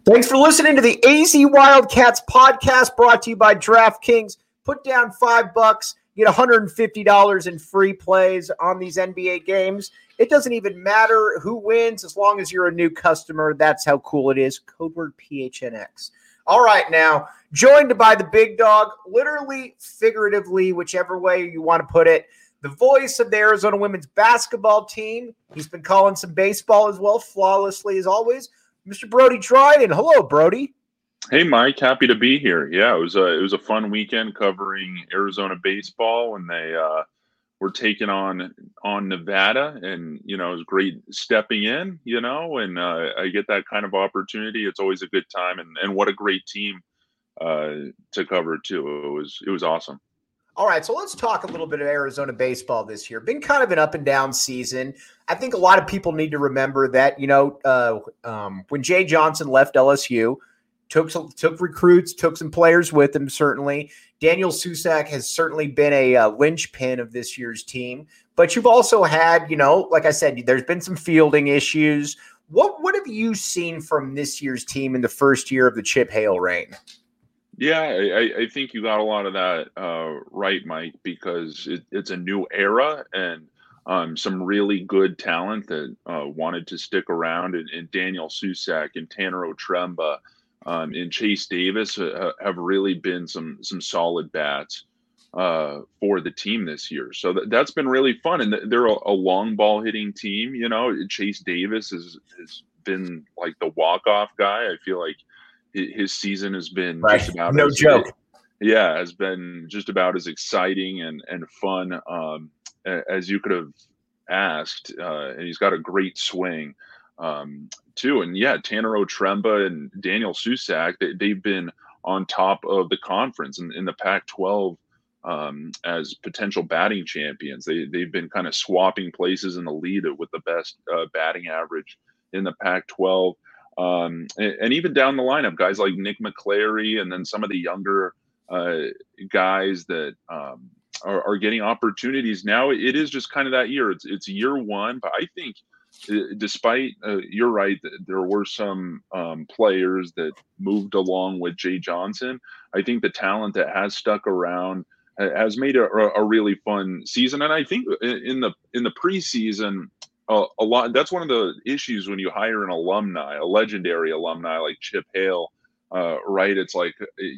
Thanks for listening to the AZ Wildcats podcast brought to you by DraftKings. Put down $5, get $150 in free plays on these NBA games. It doesn't even matter who wins as long as you're a new customer. That's how cool it is. Code word PHNX. All right, now, joined by the big dog, literally, figuratively, whichever way you want to put it, the voice of the Arizona women's basketball team. He's been calling some baseball as well, flawlessly as always. Mr. Brody Dryden. Hello, Brody. Hey, Mike. Happy to be here. Yeah, it was a fun weekend covering Arizona baseball when they were taking on Nevada, and it was great stepping in. And I get that kind of opportunity. It's always a good time, and what a great team to cover too. It was awesome. All right, so let's talk a little bit of Arizona baseball this year. Been kind of an up and down season. I think a lot of people need to remember that, when Jay Johnson left LSU, took recruits, took some players with him, certainly. Daniel Susac has certainly been a linchpin of this year's team. But you've also had, like I said, there's been some fielding issues. What have you seen from this year's team in the first year of the Chip Hale reign? Yeah, I think you got a lot of that right, Mike, because it's a new era and some really good talent that wanted to stick around. And Daniel Susac and Tanner Otremba and Chase Davis have really been some solid bats for the team this year. So that's been really fun. And they're a long ball hitting team. Chase Davis has been like the walk-off guy. I feel like his season has been just about has been just about as exciting and fun as you could have asked. And he's got a great swing too. And yeah, Tanner Otremba and Daniel Susac, they've been on top of the conference in the Pac-12 as potential batting champions. They've been kind of swapping places in the lead with the best batting average in the Pac-12. And even down the lineup, guys like Nick McClary, and then some of the younger guys that are getting opportunities now. It is just kind of that year. It's year one, but I think despite you're right, there were some players that moved along with Jay Johnson. I think the talent that has stuck around has made a really fun season. And I think in the preseason, a lot. That's one of the issues when you hire a legendary alumni like Chip Hale, right? It's like,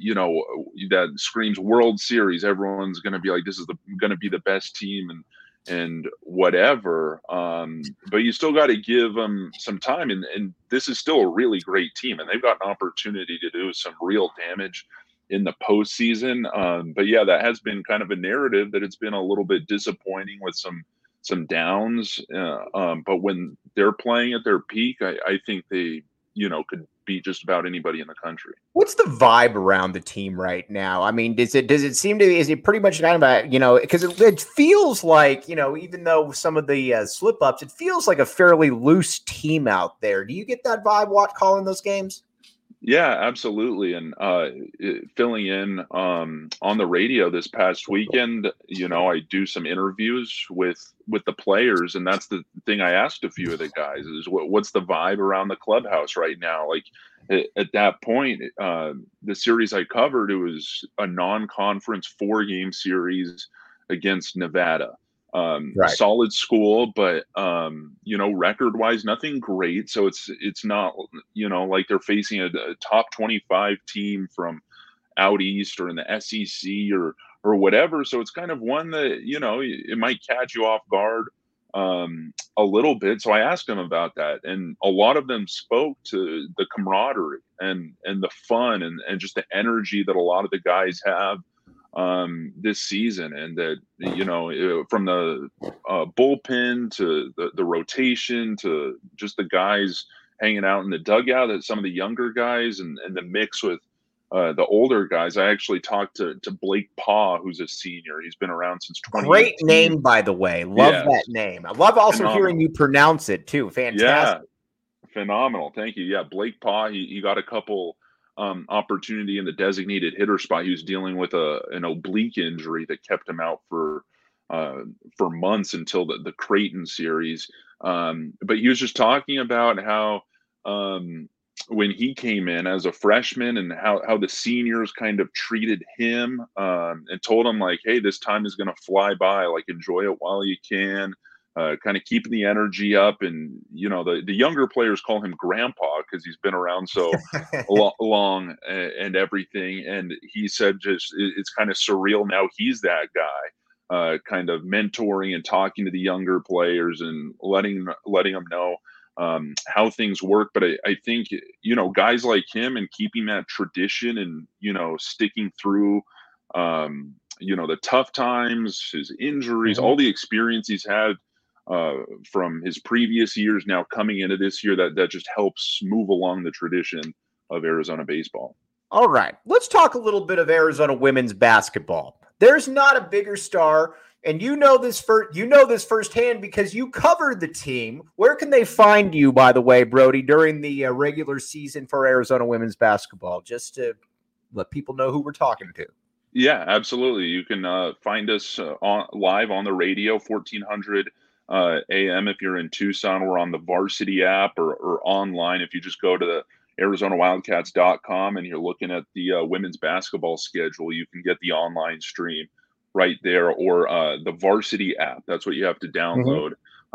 that screams World Series. Everyone's going to be like, this is going to be the best team and whatever. But you still got to give them some time. And this is still a really great team, and they've got an opportunity to do some real damage in the postseason. But yeah, that has been kind of a narrative that it's been a little bit disappointing with some downs, but when they're playing at their peak, I think they, could beat just about anybody in the country. What's the vibe around the team right now? I mean, is it seem to be, is it pretty much kind of because it feels like, even though some of the slip ups, it feels like a fairly loose team out there. Do you get that vibe calling those games? Yeah, absolutely. And filling in on the radio this past weekend, I do some interviews with the players, and that's the thing I asked a few of the guys is what's the vibe around the clubhouse right now? Like at that point, the series I covered, it was a non-conference 4-game series against Nevada. Right. Solid school, but record wise, nothing great. So it's not, like they're facing a top 25 team from out east or in the SEC or whatever. So it's kind of one that, it might catch you off guard a little bit. So I asked them about that, and a lot of them spoke to the camaraderie and the fun and just the energy that a lot of the guys have this season, and that from the bullpen to the rotation to just the guys hanging out in the dugout, that some of the younger guys and the mix with the older guys. I actually talked to Blake Paw, who's a senior. He's been around since 2018. Great name, by the way. Love that name. I love also Phenomenal. Hearing you pronounce it too. Fantastic. Yeah, phenomenal. Thank you. Yeah, Blake Paw. He got a couple opportunity in the designated hitter spot. He was dealing with an oblique injury that kept him out for months until the Creighton series. But he was just talking about how when he came in as a freshman and how the seniors kind of treated him, and told him like, hey, this time is going to fly by, like enjoy it while you can, kind of keeping the energy up. And, the younger players call him grandpa because he's been around so long and everything. And he said it's kind of surreal now he's that guy, kind of mentoring and talking to the younger players and letting them know how things work. But I think, guys like him and keeping that tradition and, sticking through, the tough times, his injuries, all the experience he's had from his previous years now coming into this year, that just helps move along the tradition of Arizona baseball. All right, let's talk a little bit of Arizona women's basketball. There's not a bigger star, and you know this firsthand because you covered the team. Where can they find you, by the way, Brody, during the regular season for Arizona women's basketball, just to let people know who we're talking to? Yeah, absolutely. You can find us live on the radio, 1400 AM if you're in Tucson. We're on the Varsity app or online. If you just go to the ArizonaWildcats.com and you're looking at the women's basketball schedule, you can get the online stream right there, or the Varsity app. That's what you have to download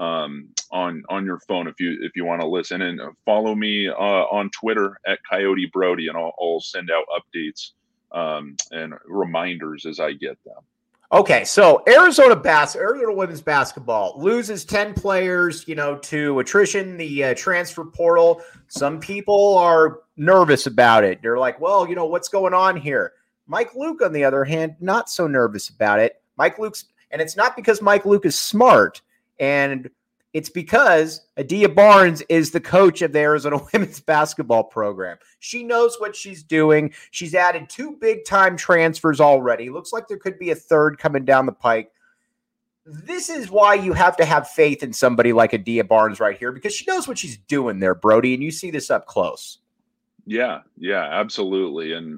on your phone if you want to listen. And follow me on Twitter at Coyote Brody, and I'll send out updates and reminders as I get them. Okay, so Arizona women's basketball loses 10 players, to attrition, the transfer portal. Some people are nervous about it. They're like, well, what's going on here? Mike Luke, on the other hand, not so nervous about it. And it's not because Mike Luke is smart, and it's because Adia Barnes is the coach of the Arizona women's basketball program. She knows what she's doing. She's added 2 big-time transfers already. Looks like there could be a third coming down the pike. This is why you have to have faith in somebody like Adia Barnes right here, because she knows what she's doing there, Brody, and you see this up close. Yeah, absolutely. And,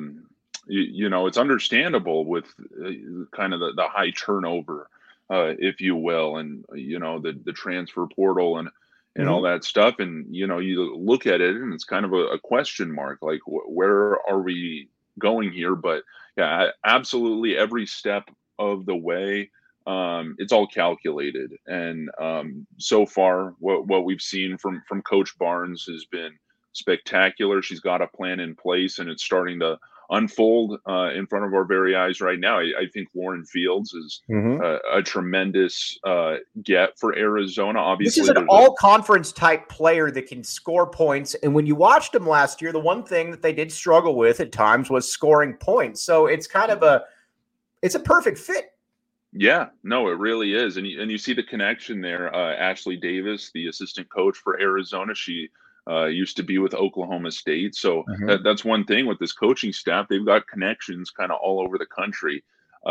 it's understandable with kind of the high turnover, if you will, and the transfer portal and all that stuff. And you look at it and it's kind of a question mark, like where are we going here? But yeah, absolutely every step of the way, it's all calculated. And so far what we've seen from Coach Barnes has been spectacular. She's got a plan in place and it's starting to unfold in front of our very eyes right now. I think Lauren Fields is a tremendous get for Arizona. Obviously, this is an all-conference type player that can score points. And when you watched him last year, the one thing that they did struggle with at times was scoring points. So it's kind of it's a perfect fit. Yeah, no, it really is. And you see the connection there. Ashley Davis, the assistant coach for Arizona, she used to be with Oklahoma State. So that's one thing with this coaching staff. They've got connections kind of all over the country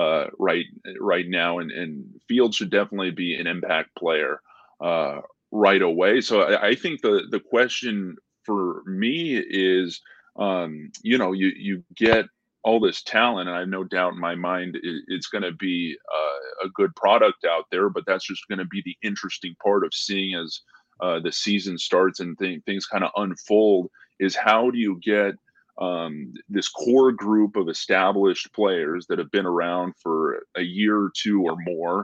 right now. And Fields should definitely be an impact player right away. So I think the question for me is, you get all this talent, and I have no doubt in my mind it's going to be a good product out there, but that's just going to be the interesting part of seeing as the season starts and things kind of unfold, is how do you get this core group of established players that have been around for a year or two or more,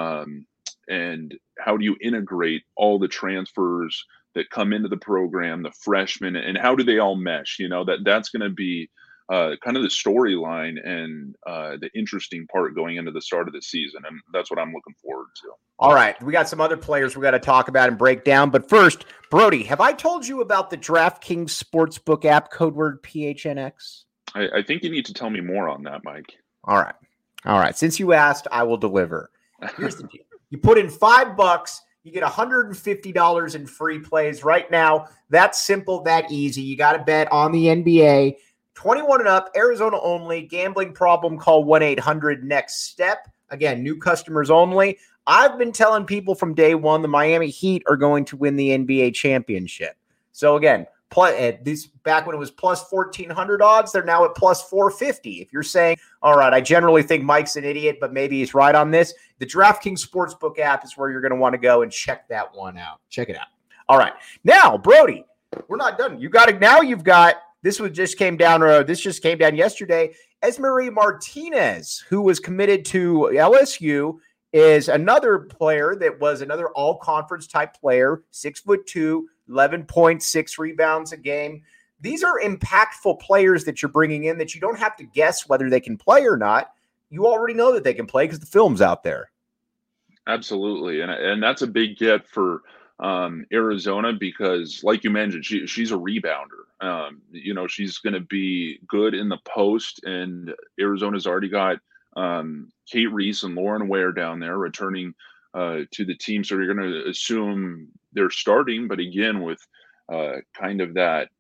and how do you integrate all the transfers that come into the program, the freshmen, and how do they all mesh? That's going to be kind of the storyline and the interesting part going into the start of the season. And that's what I'm looking forward to. All right. We got some other players we got to talk about and break down. But first, Brody, have I told you about the DraftKings Sportsbook app, code word PHNX? I think you need to tell me more on that, Mike. All right. Since you asked, I will deliver. Here's the deal. You put in $5, you get $150 in free plays right now. That's simple, that easy. You got to bet on the NBA. 21 and up, Arizona only. Gambling problem, call 1-800-NEXT-STEP. Again, new customers only. I've been telling people from day one the Miami Heat are going to win the NBA championship. So again, back when it was plus 1,400 odds, they're now at plus 450. If you're saying, all right, I generally think Mike's an idiot, but maybe he's right on this, the DraftKings Sportsbook app is where you're going to want to go and check that one out. Check it out. All right. Now, Brody, We're not done. You got it. Now you've got, this just came down yesterday. Esmery Martinez, who was committed to LSU, is another player that was another all-conference type player, 6'2", 11.6 rebounds a game. These are impactful players that you're bringing in that you don't have to guess whether they can play or not. You already know that they can play because the film's out there. Absolutely. And that's a big get for Arizona because, like you mentioned, she's a rebounder. She's going to be good in the post, and Arizona's already got Kate Reese and Lauren Ware down there returning to the team. So you're going to assume they're starting, but again, with kind of that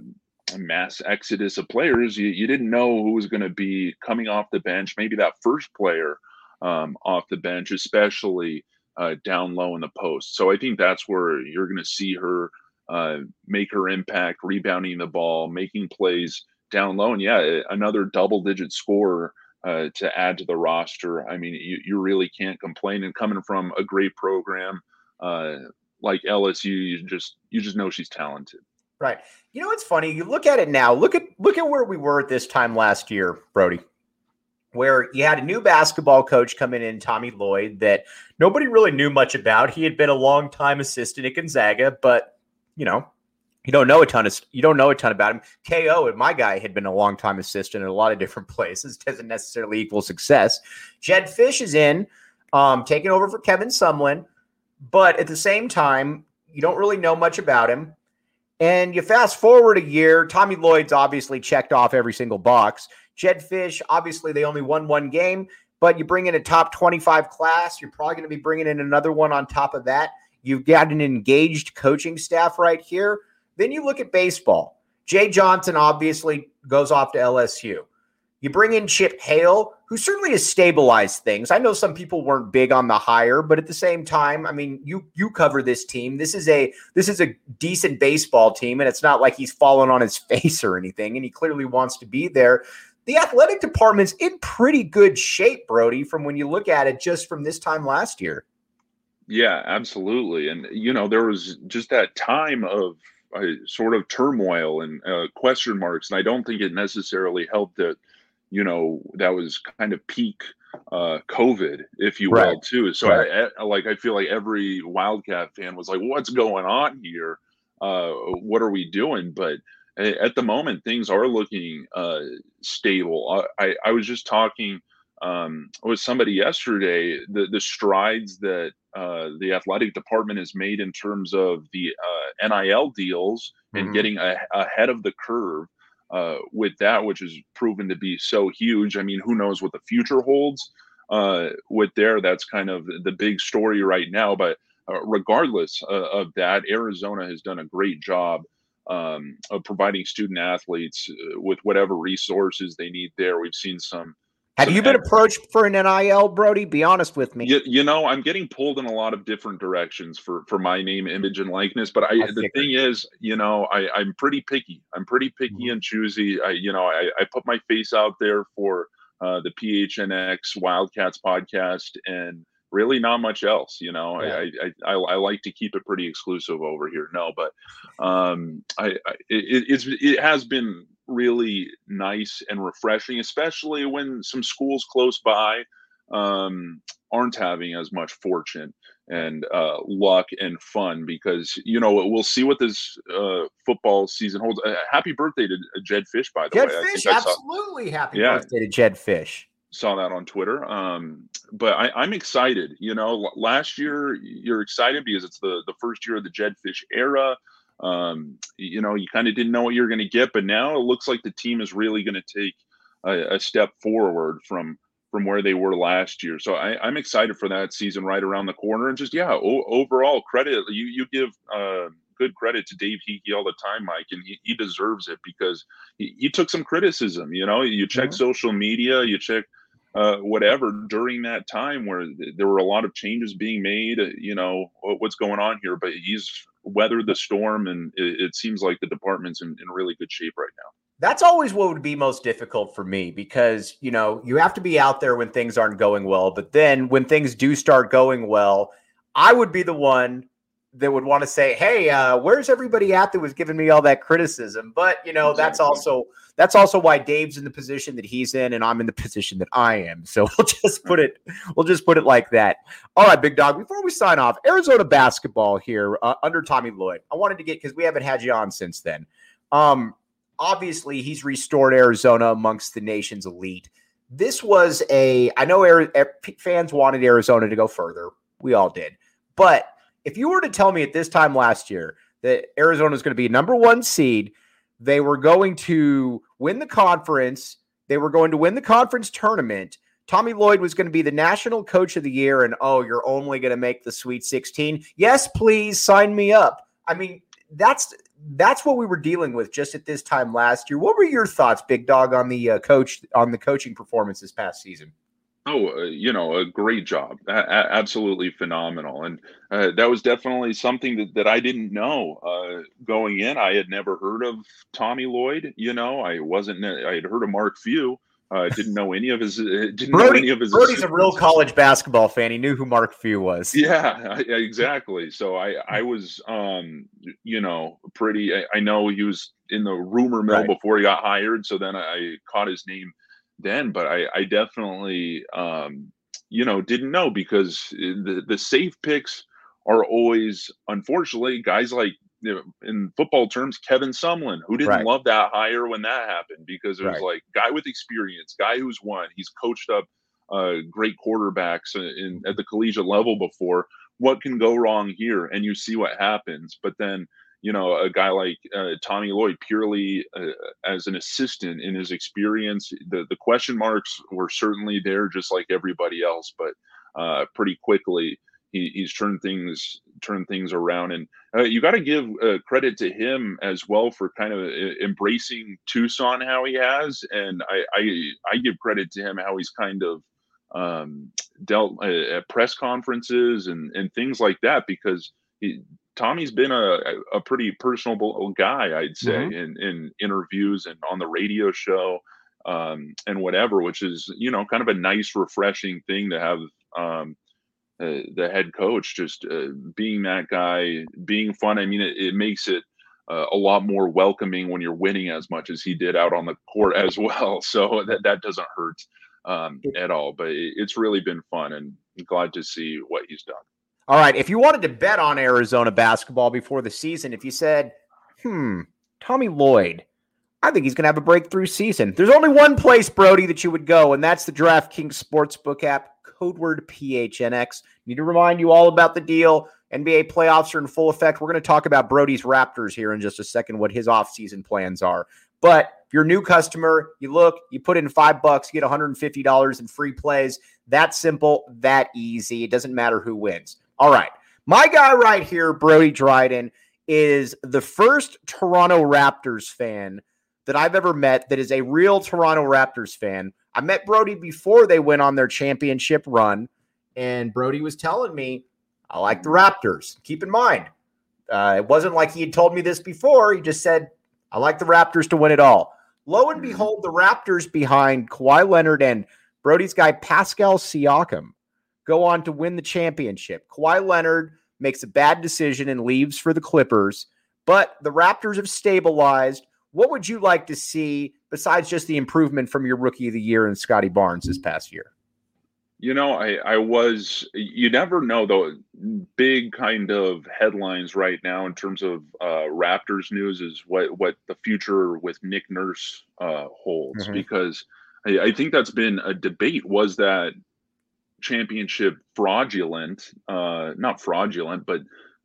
mass exodus of players, you didn't know who was going to be coming off the bench. Maybe that first player off the bench, especially down low in the post. So I think that's where you're going to see her make her impact, rebounding the ball, making plays down low. And yeah, another double-digit scorer to add to the roster. I mean, you really can't complain. And coming from a great program like LSU, you just know she's talented. Right. You know, it's funny. You look at it now. Look at where we were at this time last year, Brody, where you had a new basketball coach coming in, Tommy Lloyd, that nobody really knew much about. He had been a long-time assistant at Gonzaga, but you don't know a ton about him. KO, my guy, had been a long-time assistant in a lot of different places. Doesn't necessarily equal success. Jedd Fisch is in, taking over for Kevin Sumlin, but at the same time, you don't really know much about him. And you fast forward a year, Tommy Lloyd's obviously checked off every single box. Jedd Fisch, obviously they only won one game, but you bring in a top 25 class. You're probably going to be bringing in another one on top of that. You've got an engaged coaching staff right here. Then you look at baseball. Jay Johnson obviously goes off to LSU. You bring in Chip Hale, who certainly has stabilized things. I know some people weren't big on the hire, but at the same time, I mean, you cover this team. This is a decent baseball team, and it's not like he's fallen on his face or anything, and he clearly wants to be there. The athletic department's in pretty good shape, Brody, from when you look at it just from this time last year. Yeah, absolutely. And, there was just that time of sort of turmoil and question marks, and I don't think it necessarily helped that that was kind of peak COVID, if you will, too. So right. I feel like every Wildcat fan was like, what's going on here? What are we doing? But at the moment, things are looking stable. I was just talking with somebody yesterday, the strides that the athletic department has made in terms of the NIL deals and getting ahead of the curve. With that, which has proven to be so huge. I mean, who knows what the future holds with that's kind of the big story right now. But regardless of that, Arizona has done a great job of providing student athletes with whatever resources they need there. We've seen some. Have you been approached for an NIL, Brody? Be honest with me. I'm getting pulled in a lot of different directions for my name, image, and likeness. But the thing is, I'm pretty picky. I'm pretty picky and choosy. I put my face out there for the PHNX Wildcats podcast, and really not much else. I like to keep it pretty exclusive over here. No, but it has been really nice and refreshing, especially when some schools close by aren't having as much fortune and luck and fun, because we'll see what this football season holds. Happy birthday to Jedd Fisch, by the way. Jedd Fisch, absolutely happy birthday to Jedd Fisch. Saw that on Twitter. But I'm excited. Last year you're excited because it's the first year of the Jedd Fisch era. You kind of didn't know what you were going to get, but now it looks like the team is really going to take a step forward from where they were last year. So I'm excited for that season right around the corner. And just, overall credit, you give good credit to Dave Hickey all the time, Mike, and he deserves it because he took some criticism. You check social media, you check whatever during that time where there were a lot of changes being made, what's going on here, but he's weathered the storm, and it seems like the department's in really good shape right now. That's always what would be most difficult for me because, you have to be out there when things aren't going well, but then when things do start going well, I would be the one that would want to say, "Hey, where's everybody at that was giving me all that criticism?" But Exactly. that's also why Dave's in the position that he's in, and I'm in the position that I am. So we'll just put it like that. All right, big dog. Before we sign off, Arizona basketball here under Tommy Lloyd. I wanted to get, because we haven't had you on since then. Obviously, he's restored Arizona amongst the nation's elite. This was I know fans wanted Arizona to go further. We all did. But if you were to tell me at this time last year that Arizona is going to be number one seed, they were going to win the conference, they were going to win the conference tournament, Tommy Lloyd was going to be the national coach of the year, and you're only going to make the Sweet 16. Yes, please sign me up. I mean, that's what we were dealing with just at this time last year. What were your thoughts, big dog, on the coaching performance this past season? A great job. Absolutely phenomenal. And that was definitely something that I didn't know going in. I had never heard of Tommy Lloyd. I had heard of Mark Few. Didn't know any of his. Brody's a real college basketball fan. He knew who Mark Few was. Yeah, exactly. So I was, pretty. I know he was in the rumor mill before he got hired. So then I caught his name then, but I definitely, didn't know, because the safe picks are always, unfortunately, guys like, in football terms, Kevin Sumlin, who didn't love that hire when that happened, because it was like, guy with experience, guy who's won, he's coached up great quarterbacks at the collegiate level before. What can go wrong here? And you see what happens. But then, a guy like Tommy Lloyd, purely as an assistant, in his experience, the question marks were certainly there, just like everybody else. But pretty quickly, he's turned things around, and you got to give credit to him as well for kind of embracing Tucson how he has, and I give credit to him how he's kind of dealt at press conferences and things like that, because Tommy's been a pretty personable guy, I'd say, in interviews and on the radio show and whatever, which is kind of a nice, refreshing thing to have. The head coach just being that guy, being fun. I mean, it makes it a lot more welcoming when you're winning as much as he did out on the court as well. So that doesn't hurt at all. But it's really been fun, and I'm glad to see what he's done. All right. If you wanted to bet on Arizona basketball before the season, if you said, Tommy Lloyd, I think he's going to have a breakthrough season, there's only one place, Brody, that you would go, and that's the DraftKings Sportsbook app. Code word PHNX. Need to remind you all about the deal. NBA playoffs are in full effect. We're going to talk about Brody's Raptors here in just a second, what his offseason plans are. But if you're a new customer, you put in $5, you get $150 in free plays. That simple, that easy. It doesn't matter who wins. All right. My guy right here, Brody Dryden, is the first Toronto Raptors fan that I've ever met that is a real Toronto Raptors fan. I met Brody before they went on their championship run, and Brody was telling me, I like the Raptors. Keep in mind, it wasn't like he had told me this before. He just said, I like the Raptors to win it all. Lo and behold, the Raptors behind Kawhi Leonard and Brody's guy Pascal Siakam go on to win the championship. Kawhi Leonard makes a bad decision and leaves for the Clippers, but the Raptors have stabilized. What would you like to see besides just the improvement from your rookie of the year in Scotty Barnes this past year? You never know, though. Big kind of headlines right now in terms of Raptors news is what the future with Nick Nurse holds, because I think that's been a debate. Was that championship fraudulent? Not fraudulent, but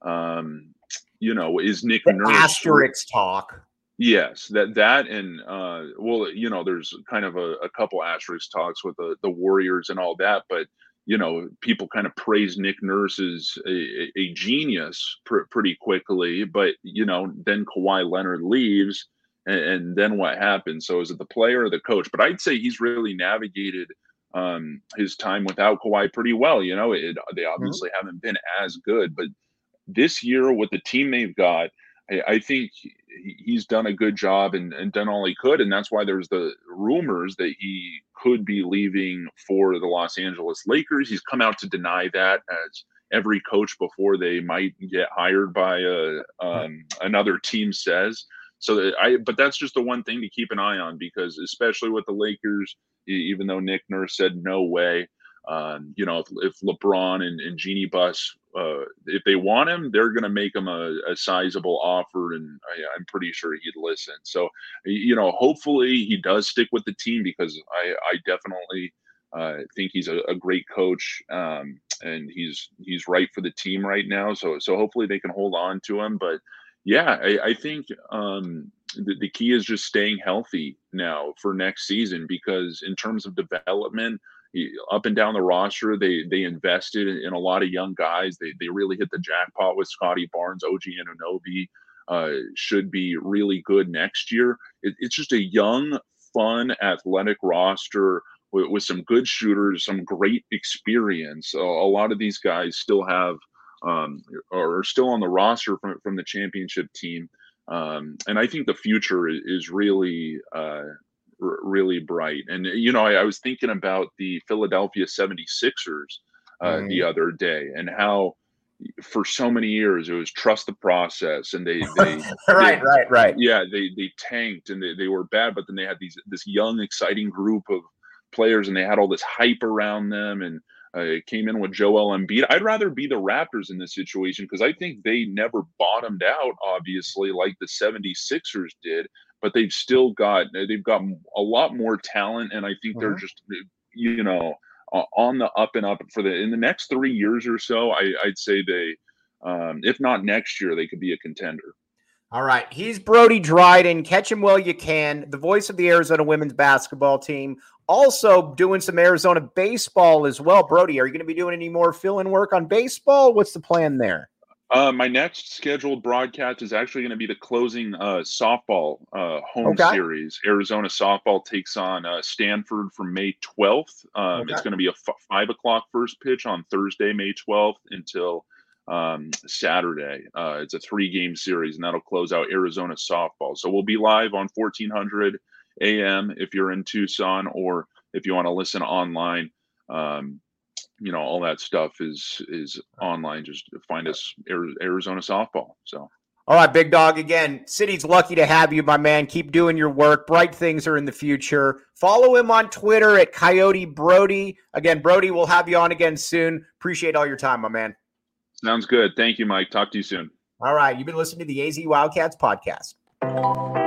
is Nick Nurse asterisk talk? Yes, that and there's kind of a couple asterisk talks with the Warriors and all that, but people kind of praise Nick Nurse as a genius pretty quickly, but then Kawhi Leonard leaves, and then what happens? So is it the player or the coach? But I'd say he's really navigated his time without Kawhi pretty well. They obviously haven't been as good, but this year with the team they've got, I think he's done a good job and done all he could. And that's why there's the rumors that he could be leaving for the Los Angeles Lakers. He's come out to deny that, as every coach before they might get hired by another team says. But that's just the one thing to keep an eye on, because especially with the Lakers, even though Nick Nurse said no way, if LeBron and Jeannie Buss, if they want him, they're going to make him a sizable offer, and I'm pretty sure he'd listen. So, hopefully he does stick with the team, because I definitely think he's a great coach, and he's right for the team right now. So hopefully they can hold on to him. But yeah, I think the key is just staying healthy now for next season, because in terms of development, up and down the roster, they invested in a lot of young guys. They really hit the jackpot with Scotty Barnes. OG Anunoby should be really good next year. It's just a young, fun, athletic roster with some good shooters, some great experience. A lot of these guys still have are still on the roster from the championship team. And I think the future is really really bright. And, I was thinking about the Philadelphia 76ers the other day, and how for so many years it was trust the process, and they right. Yeah, they tanked, and they were bad, but then they had this young, exciting group of players, and they had all this hype around them, and it came in with Joel Embiid. I'd rather be the Raptors in this situation, because I think they never bottomed out, obviously, like the 76ers did, but they've got a lot more talent, and I think they're just, on the up and up in the next 3 years or so. I'd say they, if not next year, they could be a contender. All right. He's Brody Dryden. Catch him while you can. The voice of the Arizona women's basketball team. Also doing some Arizona baseball as well. Brody, are you going to be doing any more fill-in work on baseball? What's the plan there? My next scheduled broadcast is actually going to be the closing softball home series. Arizona softball takes on Stanford from May 12th. It's going to be a 5 o'clock first pitch on Thursday, May 12th, until Saturday. It's a 3-game series, and that'll close out Arizona softball. So we'll be live on 1400 AM if you're in Tucson, or if you want to listen online. All that stuff is online. Just find us, Arizona softball. So. All right, big dog. Again, City's lucky to have you, my man. Keep doing your work. Bright things are in the future. Follow him on Twitter at Coyote Brody. Again, Brody, we'll have you on again soon. Appreciate all your time, my man. Sounds good. Thank you, Mike. Talk to you soon. All right. You've been listening to the AZ Wildcats podcast.